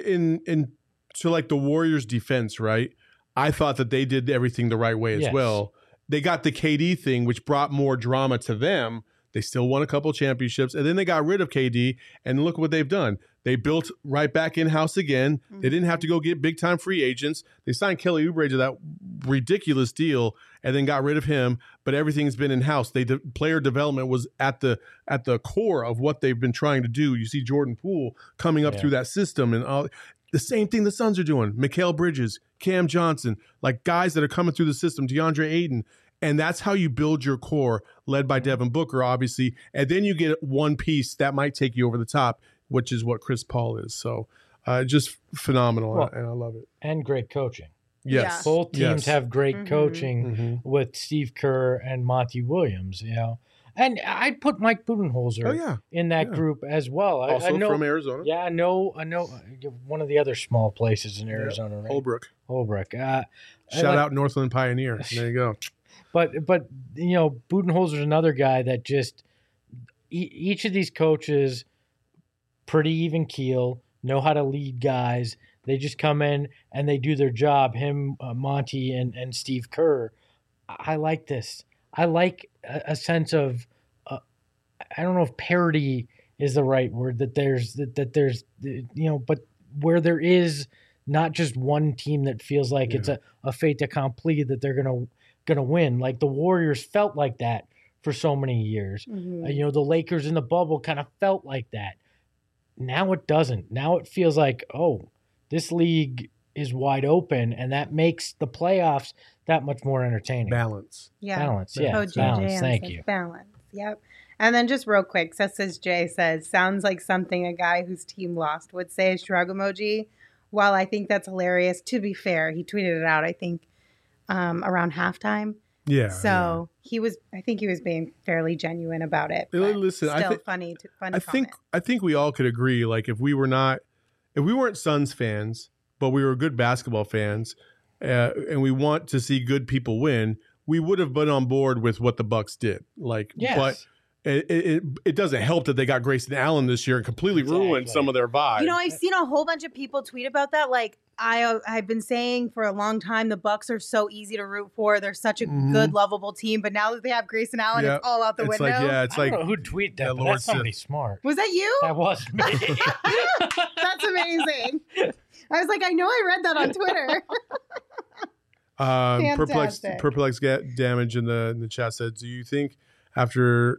so like the Warriors' defense, right? I thought that they did everything the right way as well. They got the KD thing, which brought more drama to them. They still won a couple championships, and then they got rid of KD, and look what they've done. They built right back in-house again. Mm-hmm. They didn't have to go get big-time free agents. They signed Kelly Oubre to that ridiculous deal and then got rid of him, but everything's been in-house. Player development was at the core of what they've been trying to do. You see Jordan Poole coming up through that system, and all the same thing the Suns are doing. Mikal Bridges, Cam Johnson, like guys that are coming through the system, DeAndre Ayton. And that's how you build your core, led by Devin Booker, obviously. And then you get one piece that might take you over the top, which is what Chris Paul is. So just phenomenal, and I love it. And great coaching. Yes. Both teams have great coaching with Steve Kerr and Monty Williams, And I'd put Mike Budenholzer in that group as well. Also I know, from Arizona. Yeah, I know one of the other small places in Arizona, right? Holbrook. Shout out Northland Pioneer. There you go. But Budenholzer's another guy that just each of these coaches pretty even keel, know how to lead guys. They just come in and they do their job. Him, Monty, and Steve Kerr. I like this. I like a sense of I don't know if parity is the right word. That there's but where there is not just one team that feels like it's a fait accompli that they're gonna win. Like the Warriors felt like that for so many years. Mm-hmm. The Lakers in the bubble kind of felt like that. Now it doesn't. Now it feels like, this league is wide open, and that makes the playoffs that much more entertaining. Balance. Yeah. Balance. Yeah. Balance. Thank you. Balance. Yep. And then just real quick, Jay says, sounds like something a guy whose team lost would say, shrug emoji. While I think that's hilarious, to be fair, he tweeted it out, I think, around halftime. Yeah. So I think he was being fairly genuine about it. Listen, still funny. I think we all could agree. Like if we weren't Suns fans, but we were good basketball fans, and we want to see good people win, we would have been on board with what the Bucks did. But it doesn't help that they got Grayson Allen this year and completely ruined some of their vibe. I've seen a whole bunch of people tweet about that. Like I've been saying for a long time, the Bucks are so easy to root for. They're such a good, lovable team. But now that they have Grayson Allen, it's all out the window. I don't know who tweeted that, but that's somebody smart. Was that you? That wasn't me. That's amazing. I was like, I know I read that on Twitter. Perplex Damage in the chat said, do you think after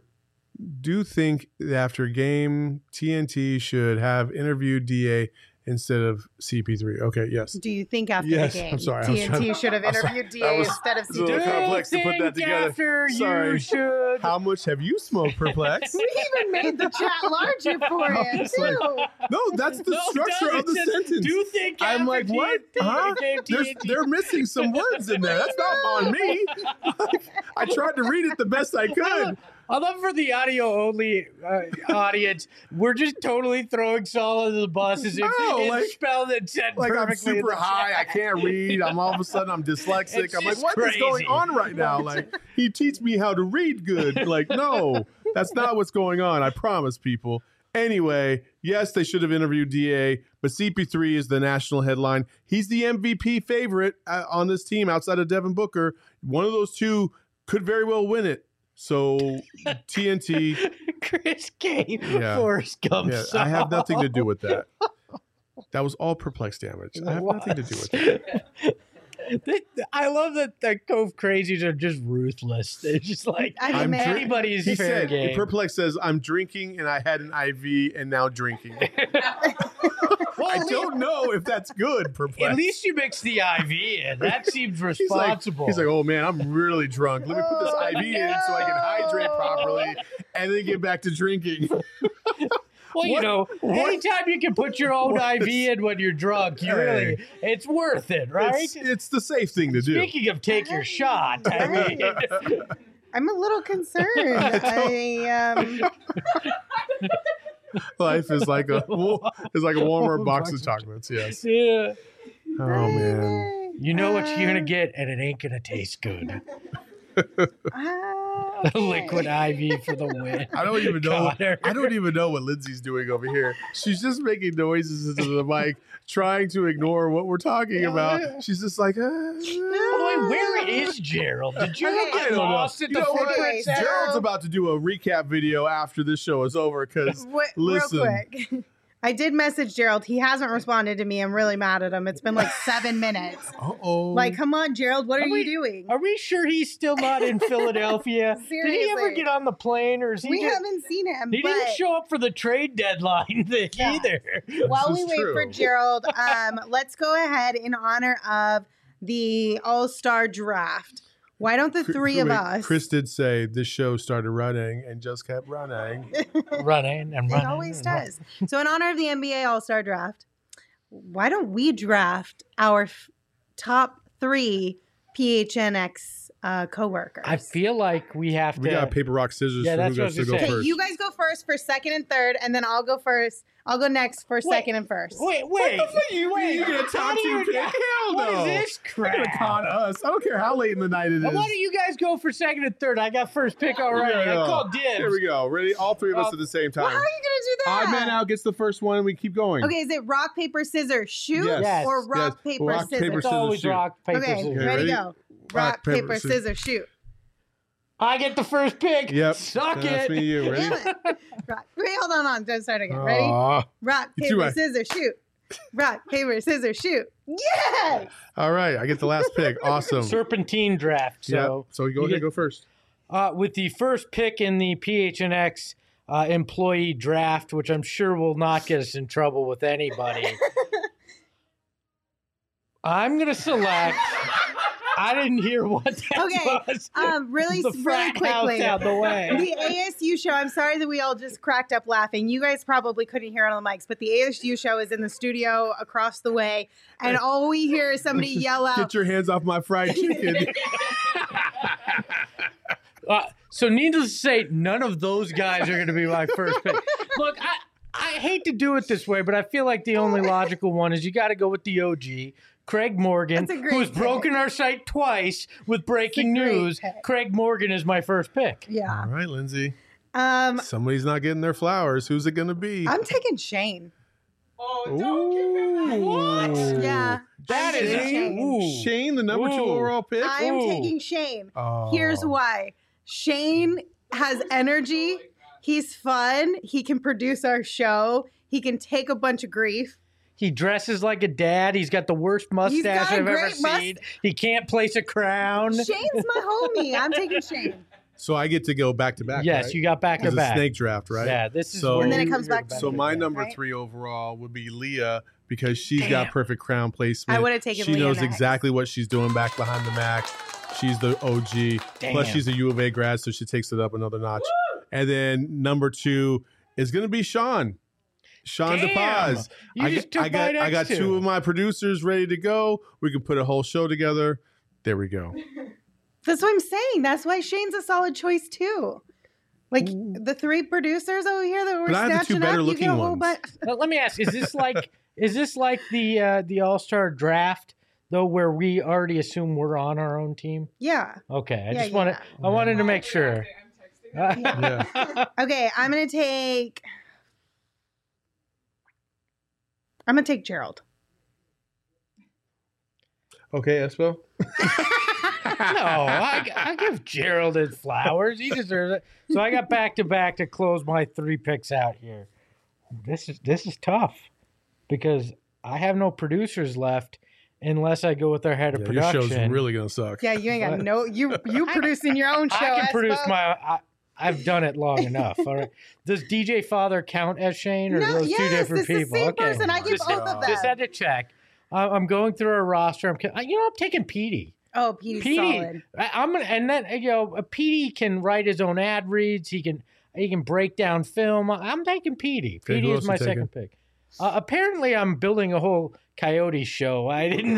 game TNT should have interviewed DA instead of CP3? Okay, yes. Do you think after the game TNT should have interviewed DA instead of CP3? It's a little complex to put that together. You should. How much have you smoked, Perplex? We even made the chat larger for you, too. No, that's the structure of the sentence. Do you think I'm like, what? Huh? They're missing some words in there. That's not on me. I tried to read it the best I could. I love for the audio only audience. We're just totally throwing Saul under the bus as if it's spelled and said like perfectly. I'm super high. I can't read. I'm all of a sudden I'm dyslexic. I'm like, what is going on right now? Like he teach me how to read good. Like no, that's not what's going on. I promise people. Anyway, yes, they should have interviewed DA, but CP3 is the national headline. He's the MVP favorite on this team outside of Devin Booker. One of those two could very well win it. So TNT Chris K. Forrest Gump song. I have nothing to do with that. That was all perplex damage. I have nothing to do with that. I love that the Cove Crazies are just ruthless. They're just like, anybody's fair game. Perplex says, I'm drinking and I had an IV and now drinking. I don't know if that's good, Perplex. At least you mix the IV in. That seems responsible. He's like, oh man, I'm really drunk. Let me put this IV in so I can hydrate properly and then get back to drinking. Well, anytime you can put your own IV in when you're drunk, it's worth it, right? It's the safe thing to do. Speaking of take your shot, I mean, I'm a little concerned. Life is like a warmer box of chocolates. Yes. Yeah. Oh man. You know what you're gonna get, and it ain't gonna taste good. Liquid IV for the win. I don't even know. I don't even know what Lindsay's doing over here. She's just making noises into the mic, trying to ignore what we're talking about. She's just like, Boy, where is Gerald? Did you get lost at the footprint? Gerald's about to do a recap video after this show is over. Because listen, real quick. I did message Gerald. He hasn't responded to me. I'm really mad at him. It's been like 7 minutes. Uh-oh. Like, come on, Gerald. What are you doing? Are we sure he's still not in Philadelphia? Seriously. Did he ever get on the plane? Or is he haven't seen him. He didn't show up for the trade deadline thing either. While we wait for Gerald, let's go ahead in honor of the All-Star Draft. Why don't the three of us? Chris did say this show started running and just kept running. running. It always does. So in honor of the NBA All-Star Draft, why don't we draft our top 3 PHNX co-workers? I feel like we have to. We got paper, rock, scissors for who gets to go first. Okay, you guys go first for second and third, and then I'll go first. I'll go next for second and first. Wait. What the fuck are you going to talk to? Hell no. What is this crap? You're going to con us. I don't care how late in the night it is. Why don't you guys go for second and third? I got first pick already. I called dibs. Here we go. Ready? All 3 of us at the same time. Well, how are you going to do that? Odd man out gets the first one, and we keep going. Okay, is it rock, paper, scissors, shoot? Yes. Or rock, paper, rock, scissors? Paper, it's always shoot. rock, paper, okay, scissors. Okay, ready, go. Rock, paper, scissors, shoot. I get the first pick. Yep. Suck it. That's me, you. Ready? Rock. Wait, hold on. Don't start again. Ready? Rock, paper, scissors, shoot. Rock, paper, scissors, shoot. Yes! All right. I get the last pick. Awesome. Serpentine draft. So, So you go ahead, go first. With the first pick in the PHNX employee draft, which I'm sure will not get us in trouble with anybody, I'm going to select... I didn't hear what that was. Really quickly. Out the way. The ASU show, I'm sorry that we all just cracked up laughing. You guys probably couldn't hear it on the mics, but the ASU show is in the studio across the way, and all we hear is somebody yell out, "Get your hands off my fried chicken." So needless to say, none of those guys are going to be my first pick. Look, I hate to do it this way, but I feel like the only logical one is you got to go with the OG. Craig Morgan, who's broken our site twice with breaking news. Craig Morgan is my first pick. Yeah. All right, Lindsay. Somebody's not getting their flowers. Who's it going to be? I'm taking Shane. Oh, don't give him What? Yeah. That is Shane, the number 2 overall pick? I am taking Shane. Here's why. Shane has energy. He's fun. He can produce our show. He can take a bunch of grief. He dresses like a dad. He's got the worst mustache I've ever seen. He can't place a crown. Shane's my homie. I'm taking Shane. So I get to go back to back. Yes, right? you got back to It's back. a snake draft, right? Yeah, this is. So, and then it comes back. So my number 3 overall would be Leah because she's got perfect crown placement. I would have taken Leah. She knows next. exactly what she's doing back behind the Mac. She's the OG. Plus she's a U of A grad, so she takes it up another notch. Woo! And then number 2 is going to be Sean. Sean DePaz. I got 2 of my producers ready to go. We can put a whole show together. There we go. That's what I'm saying. That's why Shane's a solid choice too. Like the 3 producers over here that were but I have the 2 better looking ones. Well, let me ask: Is this like the All-Star draft though, where we already assume we're on our own team? Yeah. Okay. I wanted to make sure. Okay, I'm gonna take Gerald. Okay, Espo. I give Gerald his flowers. He deserves it. So I got back-to-back to close my 3 picks out here. This is tough because I have no producers left unless I go with our head of production. Your show's really gonna suck. Yeah, you ain't got no. You producing your own show. I can produce my. I've done it long enough. All right. Does DJ Father count as Shane, or are those 2 different people? It's the same person. I give both of them. Just had to check. I'm going through our roster. I'm taking Petey. Oh, Petey's solid. Petey can write his own ad reads. He can break down film. I'm taking Petey. Petey is my second pick. Apparently, I'm building a whole Coyote show. I didn't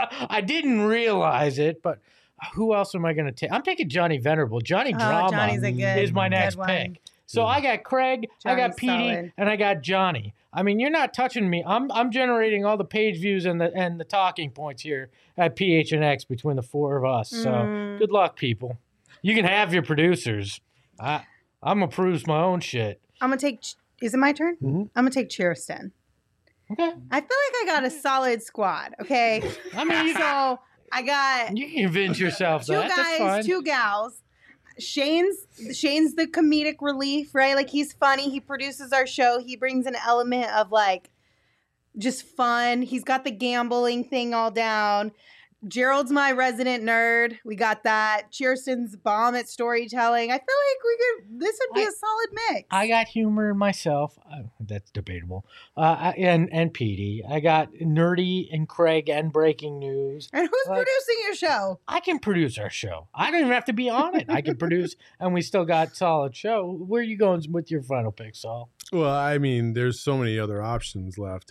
realize it, but who else am I going to take? I'm taking Johnny Venerable. Johnny Drama is my next pick. So I got Craig, I got Petey, and I got Johnny. I mean, you're not touching me. I'm generating all the page views and the talking points here at PHNX between the 4 of us. So good luck, people. You can have your producers. I'm gonna produce my own shit. I'm gonna take. Is it my turn? Mm-hmm. I'm gonna take Cheerston. Okay. I feel like I got a solid squad. Okay. I mean, so I got. You can convince yourself that. 2 That's fine. 2 gals. Shane's the comedic relief, right? Like, he's funny. He produces our show. He brings an element of like just fun. He's got the gambling thing all down. Gerald's my resident nerd. We got that. Cheerston's bomb at storytelling. I feel like this would be a solid mix. I got humor in myself. That's debatable. And Petey. I got Nerdy and Craig and Breaking News. And who's producing your show? I can produce our show. I don't even have to be on it. I can produce, and we still got solid show. Where are you going with your final pick, Saul? Well, I mean, there's so many other options left.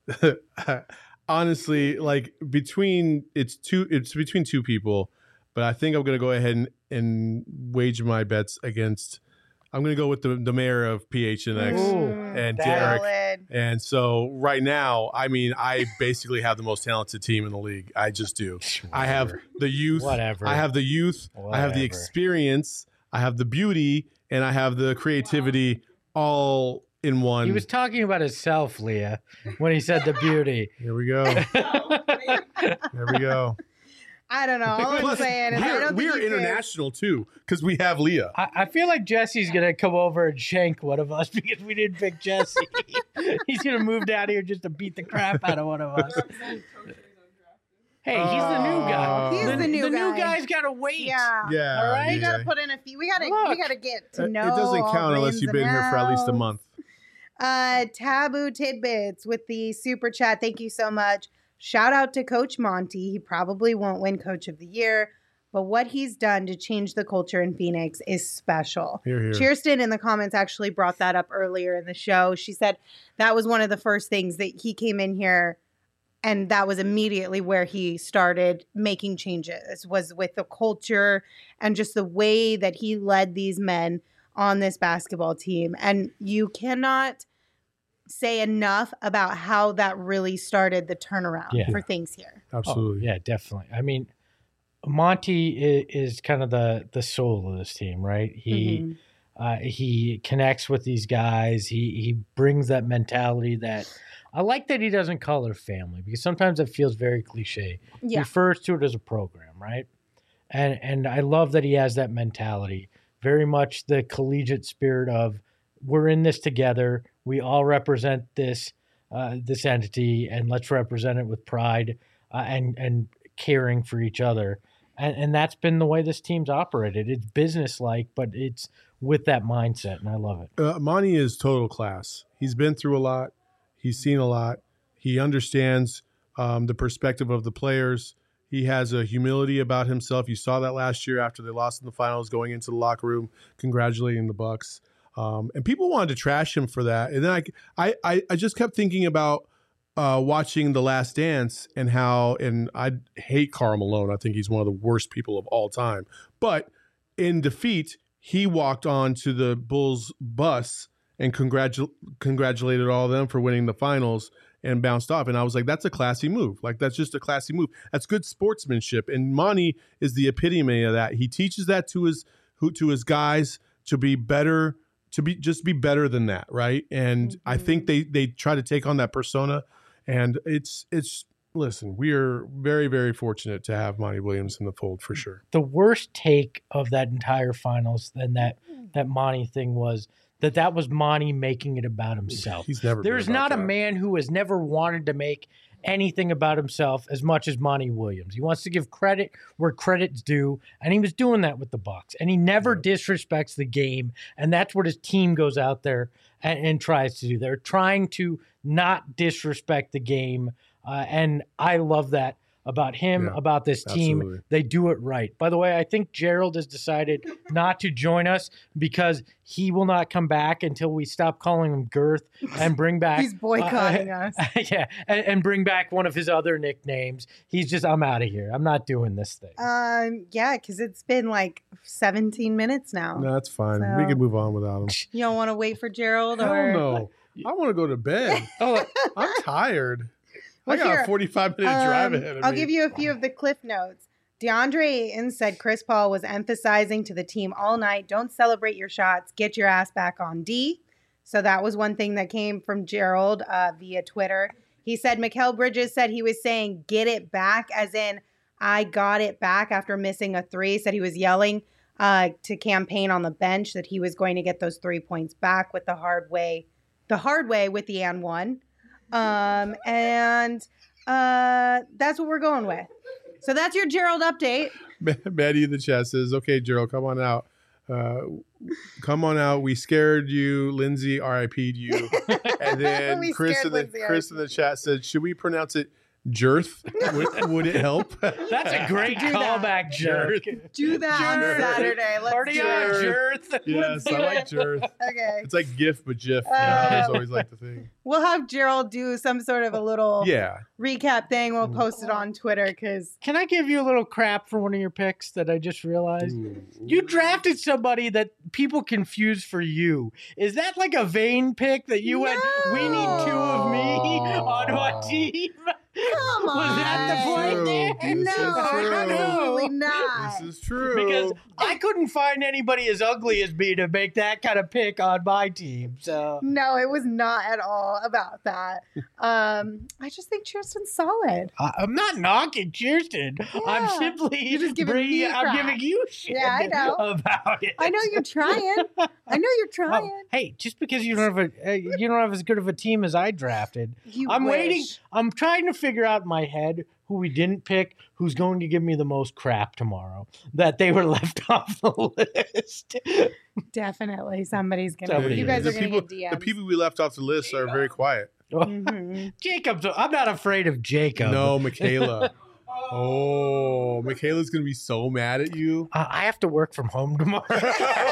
Honestly, like between between 2 people, but I think I'm gonna go ahead and wager my bets against. I'm gonna go with the mayor of PHNX and Derek. And so right now, I mean, I basically have the most talented team in the league. I just do. I have the youth. Whatever. I have the youth. I have the experience. I have the beauty, and I have the creativity all in one. He was talking about himself, Leah, when he said the beauty. Here we go. There we go. I don't know. All I'm saying is we're international too, because we have Leah. I feel like Jesse's gonna come over and shank one of us because we didn't pick Jesse. He's gonna move down here just to beat the crap out of one of us. Hey, he's the new guy. He's the new guy. The new guy's gotta wait. Yeah. All right. You gotta put in a few. We gotta get to know. It doesn't count unless you've been here for at least a month. Taboo Tidbits with the super chat. Thank you so much. Shout out to Coach Monty. He probably won't win Coach of the Year, but what he's done to change the culture in Phoenix is special. Hear, hear. Cheerston in the comments actually brought that up earlier in the show. She said that was one of the first things that he came in here, and that was immediately where he started making changes, was with the culture and just the way that he led these men on this basketball team. And you cannot say enough about how that really started the turnaround for things here. Absolutely. Oh, yeah, definitely. I mean, Monty is kind of the soul of this team, right? He connects with these guys. He brings that mentality that I like, that he doesn't call it a family, because sometimes it feels very cliche. Yeah. He refers to it as a program, right? And I love that he has that mentality, very much the collegiate spirit of, we're in this together. We all represent this entity, and let's represent it with pride and caring for each other. And that's been the way this team's operated. It's business-like, but it's with that mindset, and I love it. Monty is total class. He's been through a lot. He's seen a lot. He understands the perspective of the players. He has a humility about himself. You saw that last year after they lost in the finals, going into the locker room, congratulating the Bucks. And people wanted to trash him for that. And then I just kept thinking about watching The Last Dance and how, and I hate Karl Malone. I think he's one of the worst people of all time. But in defeat, he walked on to the Bulls bus and congratulated all of them for winning the finals and bounced off. And I was like, that's a classy move. Like, that's just a classy move. That's good sportsmanship. And Monty is the epitome of that. He teaches that to his guys to be better, to be better than that, right? And I think they try to take on that persona, and it's listen, we are very, very fortunate to have Monty Williams in the fold for sure. The worst take of that entire finals than that Monty thing was that was Monty making it about himself. He's never. There's not a man who has never wanted to make anything about himself as much as Monty Williams. He wants to give credit where credit's due, and he was doing that with the Bucks. And he never disrespects the game, and that's what his team goes out there and tries to do. They're trying to not disrespect the game, and I love that about him, about this team. Absolutely. They do it right. By the way, I think Gerald has decided not to join us because he will not come back until we stop calling him Girth and bring back... He's boycotting us. Yeah, and bring back one of his other nicknames. He's just, I'm out of here. I'm not doing this thing. Yeah, because it's been like 17 minutes now. No, that's fine. So- We can move on without him. You don't want to wait for Gerald? Hell Or no. I want to go to bed. I'm tired. I got here, a 45-minute drive ahead of me. I'll give you a few of the cliff notes. DeAndre Ayton said Chris Paul was emphasizing to the team all night, don't celebrate your shots, get your ass back on D. So that was one thing that came from Gerald via Twitter. He said Mikal Bridges said he was saying get it back, as in I got it back after missing a three. Said he was yelling to campaign on the bench that he was going to get those 3 points back with the hard way with the and one. And that's what we're going with. So that's your Gerald update. Maddie in the chat says, okay, Gerald, come on out. Come on out. We scared you. Lindsay RIP'd you. And then Chris in the chat said, should we pronounce it Jerth? Would it help? That's a great callback, Jerth. Do that on Saturday. Let's Party do on, it. Jerth. Yes, I like Jerth. Okay. It's like GIF, but GIF. That's always like the thing. We'll have Gerald do some sort of a little recap thing. We'll post it on Twitter because... Can I give you a little crap for one of your picks that I just realized? You drafted somebody that people confuse for you. Is that like a vain pick that you went, we need two of me on my team? Come on. Was that the point there? No, absolutely not. This is true. Because I couldn't find anybody as ugly as me to make that kind of pick on my team. So No, it was not at all about that. I just think Cheerston's solid. I'm not knocking Cheerston. Yeah. I'm simply You're just giving me crap. I'm giving you shit about it. I know you're trying. Hey, just because you don't have as good of a team as I drafted, I'm waiting. I'm trying to figure out in my head who we didn't pick, who's going to give me the most crap tomorrow, that they were left off the list. Definitely somebody's gonna. You guys are gonna get DMs. The people we left off the list are very quiet. Mm-hmm. Jacob's. I'm not afraid of Jacob. No, Michaela. Oh, Michaela's gonna be so mad at you. I have to work from home tomorrow. You're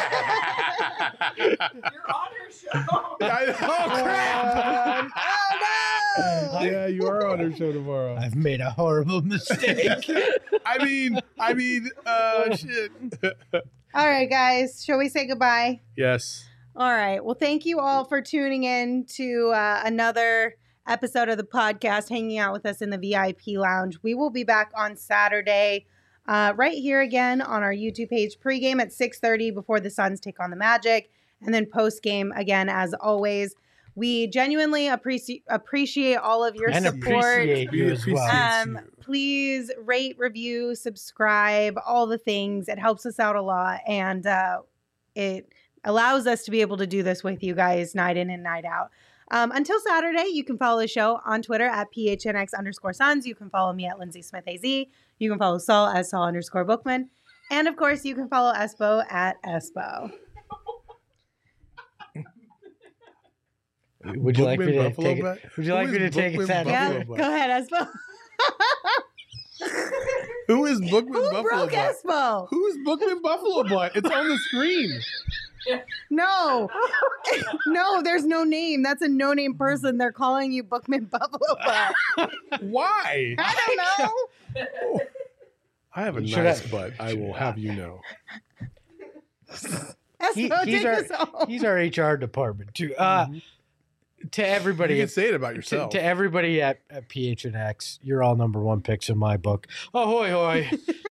on her show. Oh crap! Yeah, you are on her show tomorrow. I've made a horrible mistake. I mean, shit. All right, guys, shall we say goodbye? Yes. All right. Well, thank you all for tuning in to another episode of the podcast, hanging out with us in the VIP lounge. We will be back on Saturday, right here again on our YouTube page, pregame at 6:30 before the Suns take on the Magic, and then postgame again, as always. We genuinely appreciate all of your support. Appreciate you as well. Please rate, review, subscribe, all the things. It helps us out a lot, and it allows us to be able to do this with you guys night in and night out. Until Saturday, you can follow the show on Twitter at PHNX_Suns. You can follow me at Lindsay Smith AZ. You can follow Saul at Saul_Bookman. And of course, you can follow Espo at Espo. Would you like me to take it? Would you like me to take it? Yeah, go ahead, Espo. Who is Bookman Who Buffalo broke Butt? Espo? Who is Bookman Buffalo Butt? It's on the screen. No. No, there's no name. That's a no-name person. They're calling you Bookman Buffalo Butt. Why? I don't know. I have a nice butt, I will have you know. He's our HR department too. To everybody, you can say it about yourself. To everybody at PHNX, you're all number one picks in my book. Ahoy, hoy!